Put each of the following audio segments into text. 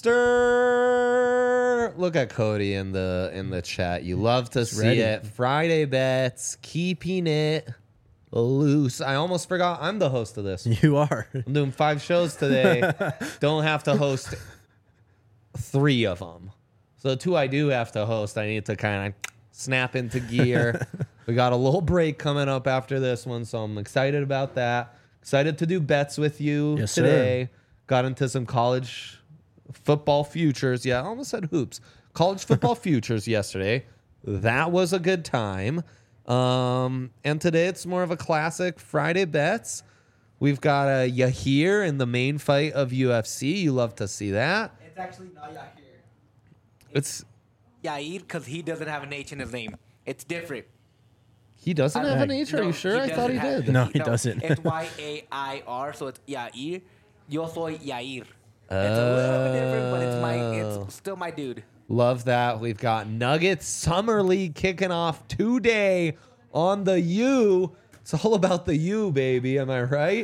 Mister. Look at Cody in the chat. You love to see it. Friday bets, keeping it loose. I almost forgot I'm the host of this. You are. I'm doing 5 shows today. Don't have to host 3 of them. So the 2 I do have to host, I need to kind of snap into gear. We got a little break coming up after this one, so I'm excited about that. Excited to do bets with you today. Sir. Got into some college football futures. Yeah, I almost said hoops. College football futures yesterday. That was a good time. And today it's more of a classic Friday bets. We've got a Yahir in the main fight of UFC. You love to see that. It's actually not Yahir. It's Yair because he doesn't have an H in his name. It's different. he doesn't have an H. Are you sure? I thought he did. No, he doesn't. It's Yair, so it's Yair. Yo soy Yair. It's a little bit different, but it's still my dude. Love that. We've got Nuggets Summer League kicking off today on the U. It's all about the U, baby. Am I right?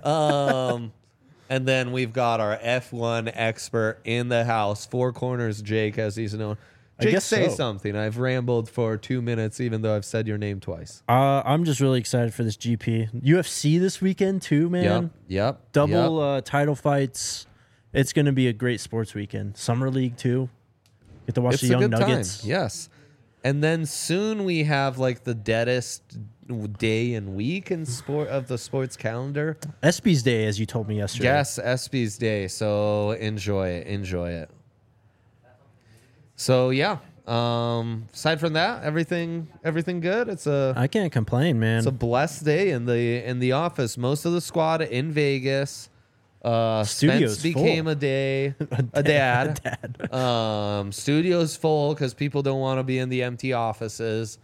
And then we've got our F1 expert in the house, Four Corners Jake, as he's known. Jake, say something. I've rambled for 2 minutes, even though I've said your name twice. I'm just really excited for this GP. UFC this weekend, too, man. Yep. Double title fights. It's going to be a great sports weekend. Summer League, too. Get to watch the young Nuggets. Time. Yes. And then soon we have like the deadest day and week in sport of the sports calendar. ESPY's Day, as you told me yesterday. Yes, ESPY's Day. So enjoy it. So yeah. Aside from that, everything good. I can't complain, man. It's a blessed day in the office. Most of the squad in Vegas. Studio's Spence became full. a dad. Studio's full because people don't want to be in the empty offices.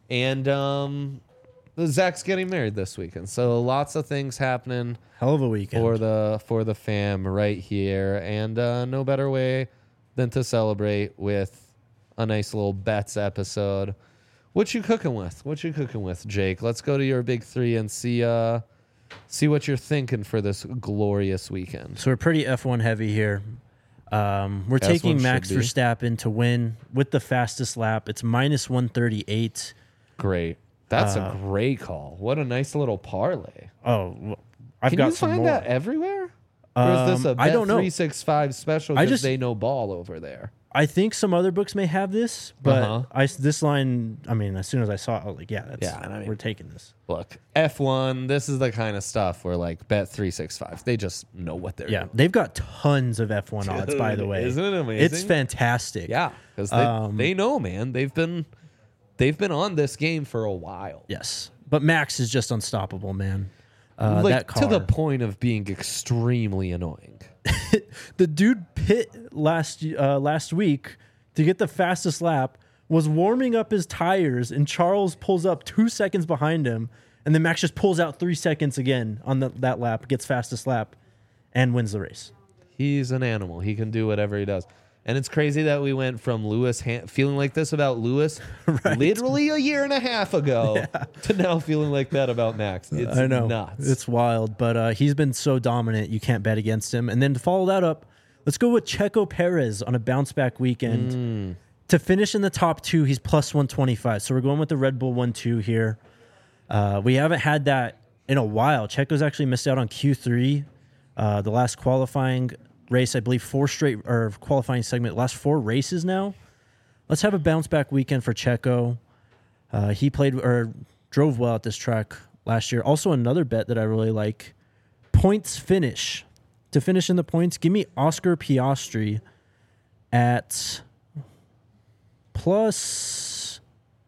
And Zach's getting married this weekend. So lots of things happening. Hell of a weekend. For the fam right here. And no better way than to celebrate with a nice little bets episode. What you cooking with, Jake? Let's go to your big 3 and see what you're thinking for this glorious weekend. So we're pretty F1 heavy here. We're taking Max Verstappen to win with the fastest lap. It's minus 138. Great. That's a great call. What a nice little parlay. Oh, I've Can got you some find more. that everywhere? Or is this a I don't know. Bet365 special because they know ball over there? I think some other books may have this, but this line, I mean, as soon as I saw it, I was like, we're taking this. Look, F1, this is the kind of stuff where like Bet365, they just know what they're doing. They've got tons of F1 odds, by the way. Isn't it amazing? It's fantastic. Yeah, because they know, man. They've been on this game for a while. Yes, but Max is just unstoppable, man. That car, to the point of being extremely annoying. The dude pit last week to get the fastest lap, was warming up his tires, and Charles pulls up 2 seconds behind him, and then Max just pulls out 3 seconds again on that lap, gets fastest lap, and wins the race. He's an animal. He can do whatever he does. And it's crazy that we went from Lewis feeling like this about Lewis literally a year and a half ago to now feeling like that about Max. It's I know. Nuts. It's wild, but he's been so dominant, you can't bet against him. And then to follow that up, let's go with Checo Perez on a bounce-back weekend. To finish in the top 2, he's plus 125. So we're going with the Red Bull 1-2 here. We haven't had that in a while. Checo's actually missed out on Q3, the last qualifying race, I believe 4 straight or qualifying segment, last 4 races now. Let's have a bounce back weekend for Checo. He played or drove well at this track last year. Also another bet that I really like, points finish. To finish in the points, give me Oscar Piastri at plus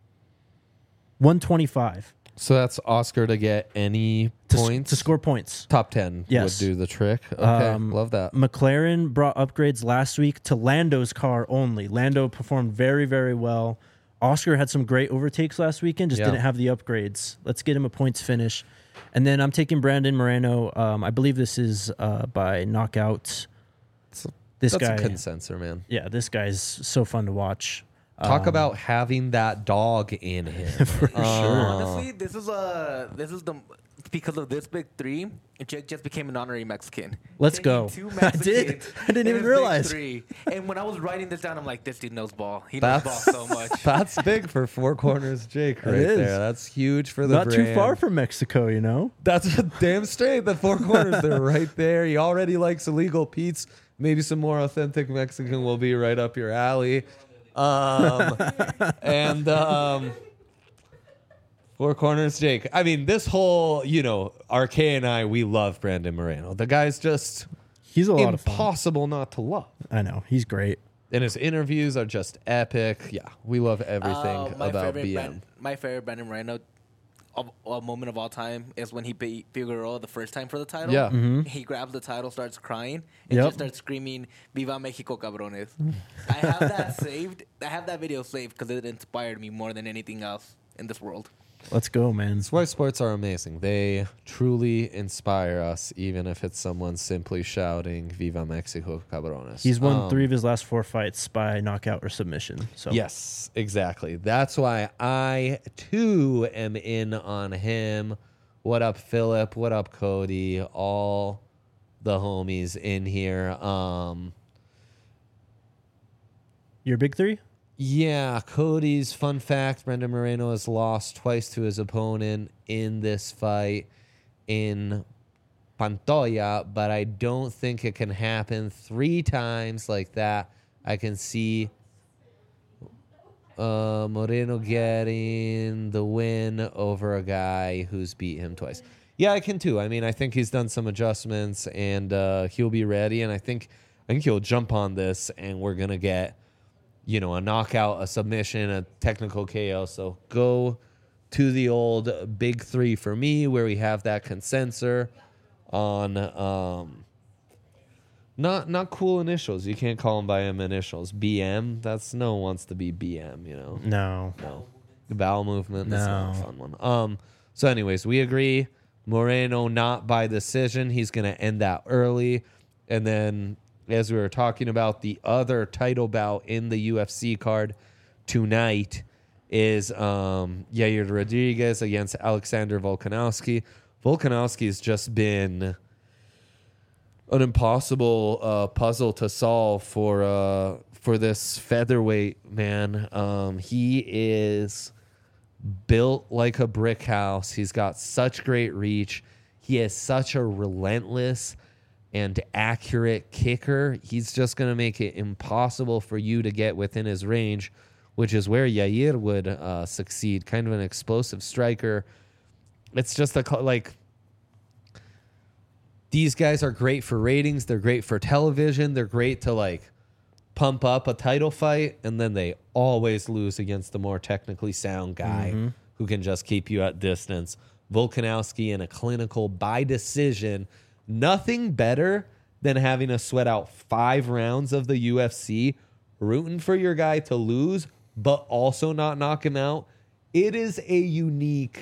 125. So that's Oscar to get any points? To score points. Top 10 would do the trick. Okay, love that. McLaren brought upgrades last week to Lando's car only. Lando performed very, very well. Oscar had some great overtakes last weekend, just didn't have the upgrades. Let's get him a points finish. And then I'm taking Brandon Moreno. I believe this is by knockout. That's a consensor, man. Yeah, this guy's so fun to watch. Talk about having that dog in him. For sure. Honestly, this is the because of this big three, Jake just became an honorary Mexican. Let's Taking go. two I did. Mexicans I didn't in even his big realize. three. And when I was writing this down, I'm like, this dude knows ball. He knows ball so much. That's big for Four Corners Jake right is. there. That's huge for the Not brand. too far from Mexico, you know. That's damn straight. The Four Corners, they're right there. He already likes illegal Pete's. Maybe some more authentic Mexican will be right up your alley. And Four Corners Jake. I mean, this whole, RK and I, we love Brandon Moreno. The guy's just He's a lot of fun. impossible not to love. I know. He's great. And his interviews are just epic. Yeah, we love everything about BM. My favorite Brandon Moreno a moment of all time is when he beat Figueroa the first time for the title. Yeah. He grabs the title, starts crying, and Yep. just starts screaming, "Viva Mexico, cabrones!" I have that saved. I have that video saved because it inspired me more than anything else in this world. Let's go, man. That's why sports are amazing. They truly inspire us, even if it's someone simply shouting "Viva Mexico, cabrones." He's won 3 of his last 4 fights by knockout or submission. So Yes, exactly. That's why I too am in on him. What up, Philip? What up, Cody? All the homies in here. your big 3? Yeah, Cody's fun fact, Brandon Moreno has lost twice to his opponent in this fight in Pantoja, but I don't think it can happen 3 times like that. I can see Moreno getting the win over a guy who's beat him twice. Yeah, I can too. I mean, I think he's done some adjustments and he'll be ready, and I think he'll jump on this and we're going to get a knockout, a submission, a technical KO. So go to the old big 3 for me, where we have that consensus on not cool initials. You can't call them by him initials. BM. That's no one wants to be BM. No. The bowel movement. That's not a No. fun one. So anyways, we agree. Moreno not by decision. He's gonna end that early, and then, as we were talking about, the other title bout in the UFC card tonight is Yair Rodriguez against Alexander Volkanovski. Volkanovski's just been an impossible puzzle to solve for this featherweight man. He is built like a brick house. He's got such great reach. He has such a relentless and accurate kicker. He's just going to make it impossible for you to get within his range, which is where Yair would succeed. Kind of an explosive striker. It's just these guys are great for ratings. They're great for television. They're great to pump up a title fight, and then they always lose against the more technically sound guy who can just keep you at distance. Volkanovski in a clinical by decision. Nothing better than having to sweat out 5 rounds of the UFC, rooting for your guy to lose, but also not knock him out. It is a unique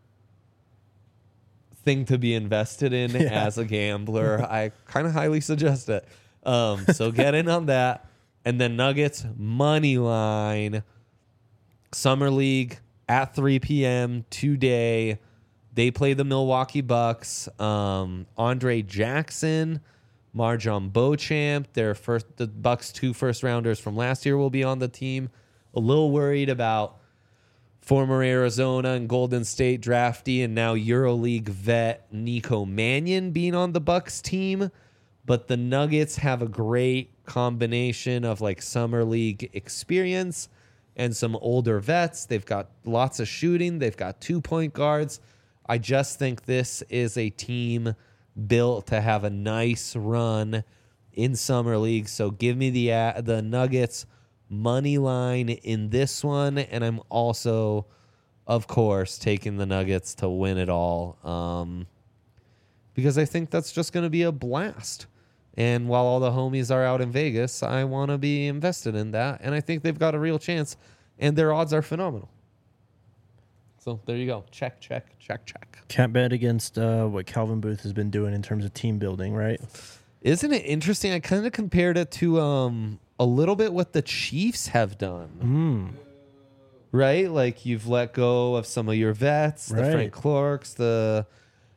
thing to be invested in as a gambler. I kind of highly suggest it. So get in on that. And then Nuggets, money line. Summer League at 3 p.m. today. They play the Milwaukee Bucks. Andre Jackson, Marjon Beauchamp, the Bucks 2 first-rounders from last year will be on the team. A little worried about former Arizona and Golden State draftee and now EuroLeague vet Nico Mannion being on the Bucks team. But the Nuggets have a great combination of Summer League experience and some older vets. They've got lots of shooting. They've got 2 point guards. I just think this is a team built to have a nice run in Summer League. So give me the Nuggets money line in this one. And I'm also, of course, taking the Nuggets to win it all because I think that's just going to be a blast. And while all the homies are out in Vegas, I want to be invested in that. And I think they've got a real chance. And their odds are phenomenal. So there you go. Check. Can't bet against what Calvin Booth has been doing in terms of team building, right? Isn't it interesting? I kind of compared it to a little bit what the Chiefs have done. Right? You've let go of some of your vets, the Right. Frank Clarks, the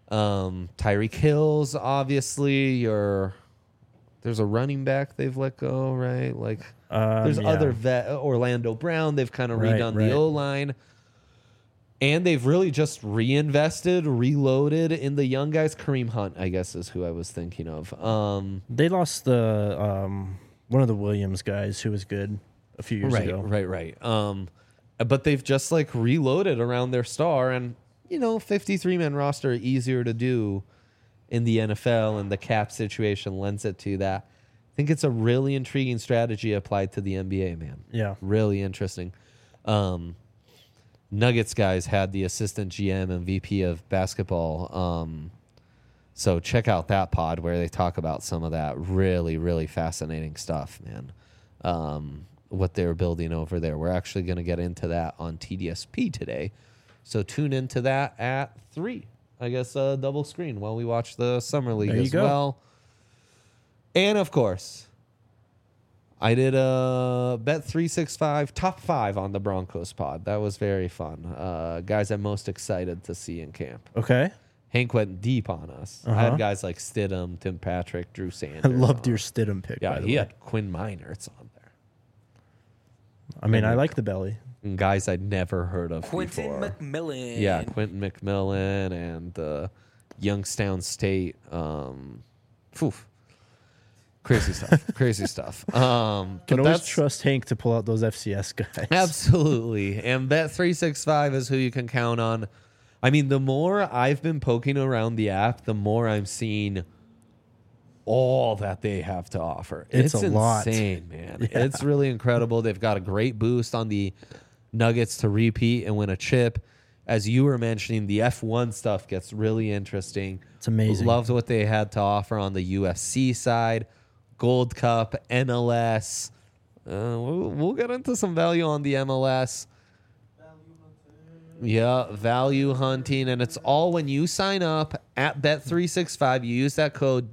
Tyreek Hill's obviously there's a running back they've let go, right? Like there's yeah. other Orlando Brown, they've kind of Right, redone right. the O-line. And they've really just reinvested, reloaded in the young guys. Kareem Hunt, I guess, is who I was thinking of. They lost the one of the Williams guys who was good a few years ago. Right. But they've just like reloaded around their star, and 53-man roster easier to do in the NFL, and the cap situation lends it to that. I think it's a really intriguing strategy applied to the NBA, man. Yeah. Really interesting. Nuggets guys had the assistant GM and VP of basketball. So check out that pod where they talk about some of that really, really fascinating stuff, man. What they're building over there. We're actually going to get into that on TDSP today. So tune into that at 3. I guess double screen while we watch the Summer League There you as go. well. And of course, I did a Bet365 top 5 on the Broncos pod. That was very fun. Guys I'm most excited to see in camp. Okay. Hank went deep on us. I had guys like Stidham, Tim Patrick, Drew Sanders. I loved on your us. Stidham pick. Yeah, by the he way. had Quinn Miners on there. I mean, I like the belly. And guys I'd never heard of Quentin before. McMillan. Yeah, Quentin McMillan and Youngstown State. Crazy stuff. Crazy stuff. Can But always that's trust Hank to pull out those FCS guys. absolutely. And Bet365 is who you can count on. I mean, the more I've been poking around the app, the more I'm seeing all that they have to offer. It's a lot. insane, man. Yeah. It's really incredible. They've got a great boost on the Nuggets to repeat and win a chip. As you were mentioning, the F1 stuff gets really interesting. It's amazing. Loved what they had to offer on the UFC side. Gold Cup, MLS. We'll get into some value on the MLS. Yeah, value hunting. And it's all when you sign up at Bet365. You use that code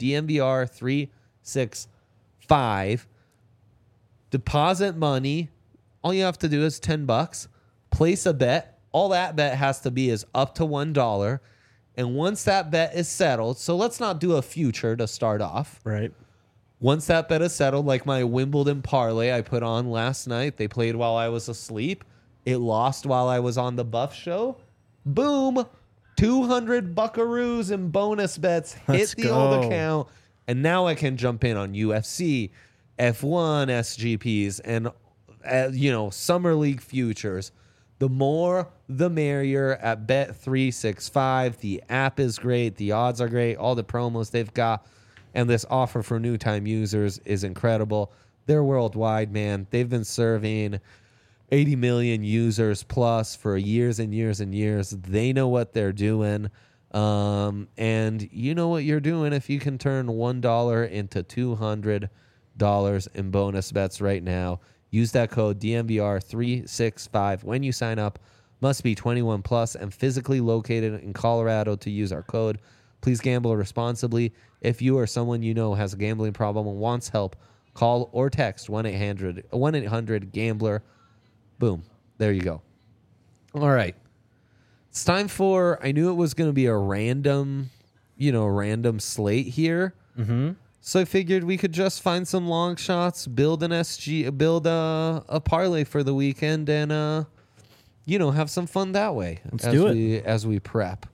DMVR365. Deposit money. All you have to do is $10. Place a bet. All that bet has to be is up to $1. And once that bet is settled, so let's not do a future to start off. Right. Once that bet is settled, like my Wimbledon parlay I put on last night, they played while I was asleep. It lost while I was on the Buff Show. Boom. 200 buckaroos in bonus bets hit Let's the old go. account. And now I can jump in on UFC, F1 SGPs, and, Summer League futures. The more, the merrier at Bet365. The app is great. The odds are great. All the promos they've got. And this offer for new time users is incredible. They're worldwide, man. They've been serving 80 million users plus for years and years and years. They know what they're doing. And you know what you're doing if you can turn $1 into $200 in bonus bets right now. Use that code DMVR365 when you sign up. Must be 21 plus and physically located in Colorado to use our code. Please gamble responsibly. If you or someone you know has a gambling problem and wants help, call or text 1-800-GAMBLER. Boom. There you go. All right. It's time for, I knew it was going to be a random slate here. Mm-hmm. So I figured we could just find some long shots, build a parlay for the weekend, and have some fun that way. Let's do it. As we prep.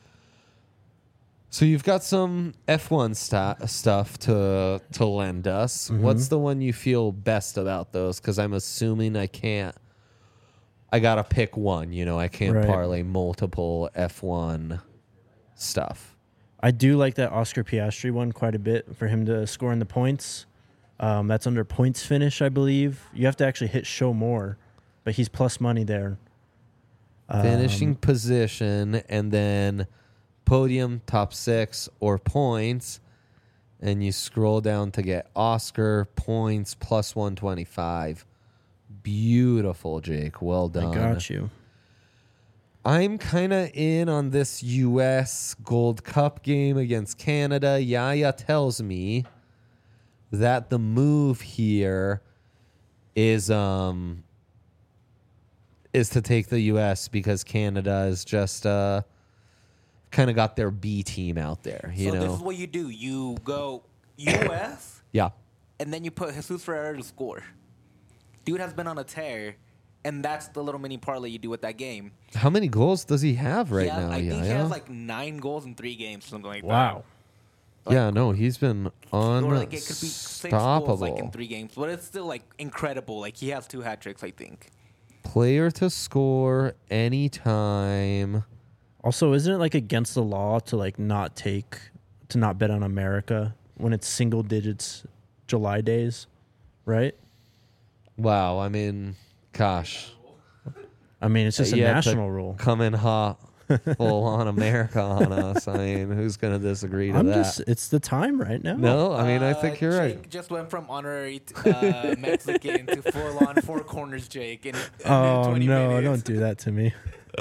So you've got some F1 stuff to lend us. Mm-hmm. What's the one you feel best about those? Because I'm assuming I got to pick one. I can't Right. parlay multiple F1 stuff. I do like that Oscar Piastri one quite a bit for him to score in the points. That's under points finish, I believe. You have to actually hit show more, but he's plus money there. Finishing position and then podium, top 6, or points. And you scroll down to get Oscar points plus 125. Beautiful, Jake. Well done. I got you. I'm kind of in on this U.S. Gold Cup game against Canada. Yaya tells me that the move here is to take the U.S. because Canada is just kind kind of got their B team out there. You So know, this is what you do. You go U.S. yeah. and then you put Jesus Ferreira to score. Dude has been on a tear, and that's the little mini parlay you do with that game. How many goals does he have right now? I think he Yeah. has like 9 goals in 3 games, something like that. Wow. Yeah, no, he's been Or like it could be 6 goals unstoppable. like in 3 games, but it's still like incredible. Like he has 2 hat tricks, I think. Player to score anytime. Also, isn't it like against the law to like not bet on America when it's single digits July days, right? Wow, I mean, gosh. I mean, it's just a You have to national rule. Come in hot, full on America on us. I mean, who's going to disagree to that? It's the time right now. No, I mean, I think you're right. Jake just went from honorary Mexican to full-on 4 corners, Jake. In Oh 20 no! minutes. Don't do that to me.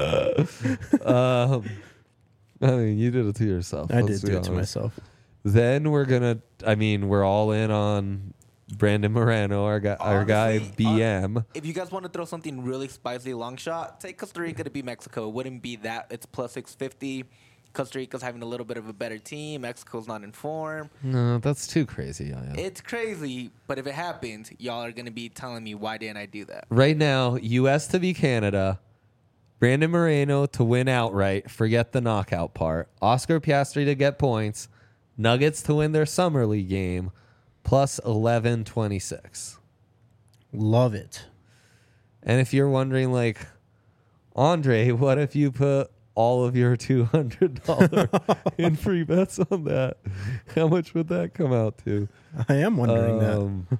I mean, you did it to yourself. I let's did be do it to honest. myself. Then we're all in on Brandon Moreno, our guy Honestly, BM. If you guys want to throw something really spicy long shot, take Costa Rica to beat Mexico. It wouldn't be that. It's plus 650. Costa Rica's having a little bit of a better team. Mexico's not in form. No, that's too crazy. Yeah. It's crazy, but if it happens, y'all are going to be telling me, why didn't I do that? Right now, U.S. to beat Canada, Brandon Moreno to win outright, forget the knockout part, Oscar Piastri to get points, Nuggets to win their Summer League game, plus 1126. Love it. And if you're wondering, like, Andre, what if you put all of your $200 in free bets on that? How much would that come out to? I am wondering that.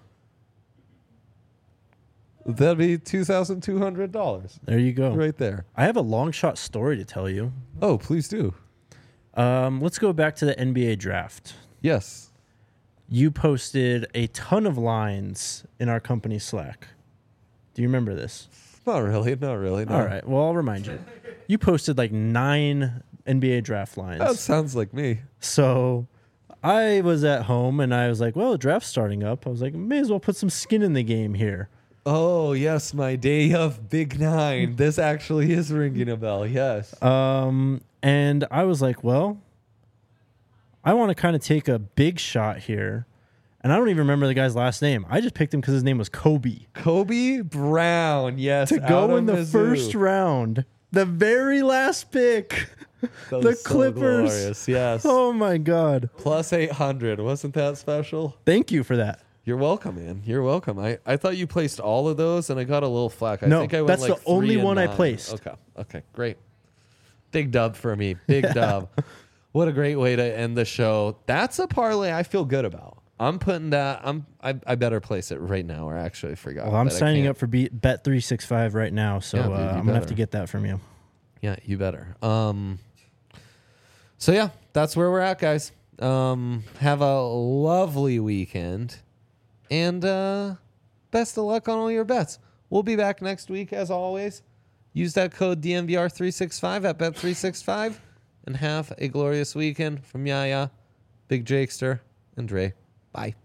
That'd be $2,200 There you go. right there. I have a long shot story to tell you. Oh, please do. Let's go back to the NBA draft. Yes. You posted a ton of lines in our company Slack. Do you remember this? Not really. No. All right. Well, I'll remind you. You posted like 9 NBA draft lines. That sounds like me. So I was at home and I was like, well, the draft's starting up. I was like, may as well put some skin in the game here. Oh, yes, my day of Big 9. This actually is ringing a bell. Yes. And I was like, well, I want to kind of take a big shot here. And I don't even remember the guy's last name. I just picked him because his name was Kobe. Kobe Brown. Yes. To out go of in the Mizzou. first round, the very last pick. That The was so Clippers. glorious. Yes. Oh my God. Plus 800. Wasn't that special? Thank you for that. You're welcome, man. You're welcome. I thought you placed all of those, and I got a little flack. I No, think I went that's like the only 3 and one I 9. placed. Okay, great. Big dub for me. Big dub. What a great way to end the show. That's a parlay I feel good about. I'm putting that. I better place it right now, or actually I forgot. Well, I'm but I signing can't. up for Bet365 right now, so Yeah, dude, you I'm going to have better. to get that from you. Yeah, you better. So yeah, that's where we're at, guys. Have a lovely weekend, and best of luck on all your bets. We'll be back next week as always. Use that code DNVR365 at Bet365, and have a glorious weekend from Yaya, Big Jakester, and Dre. Bye.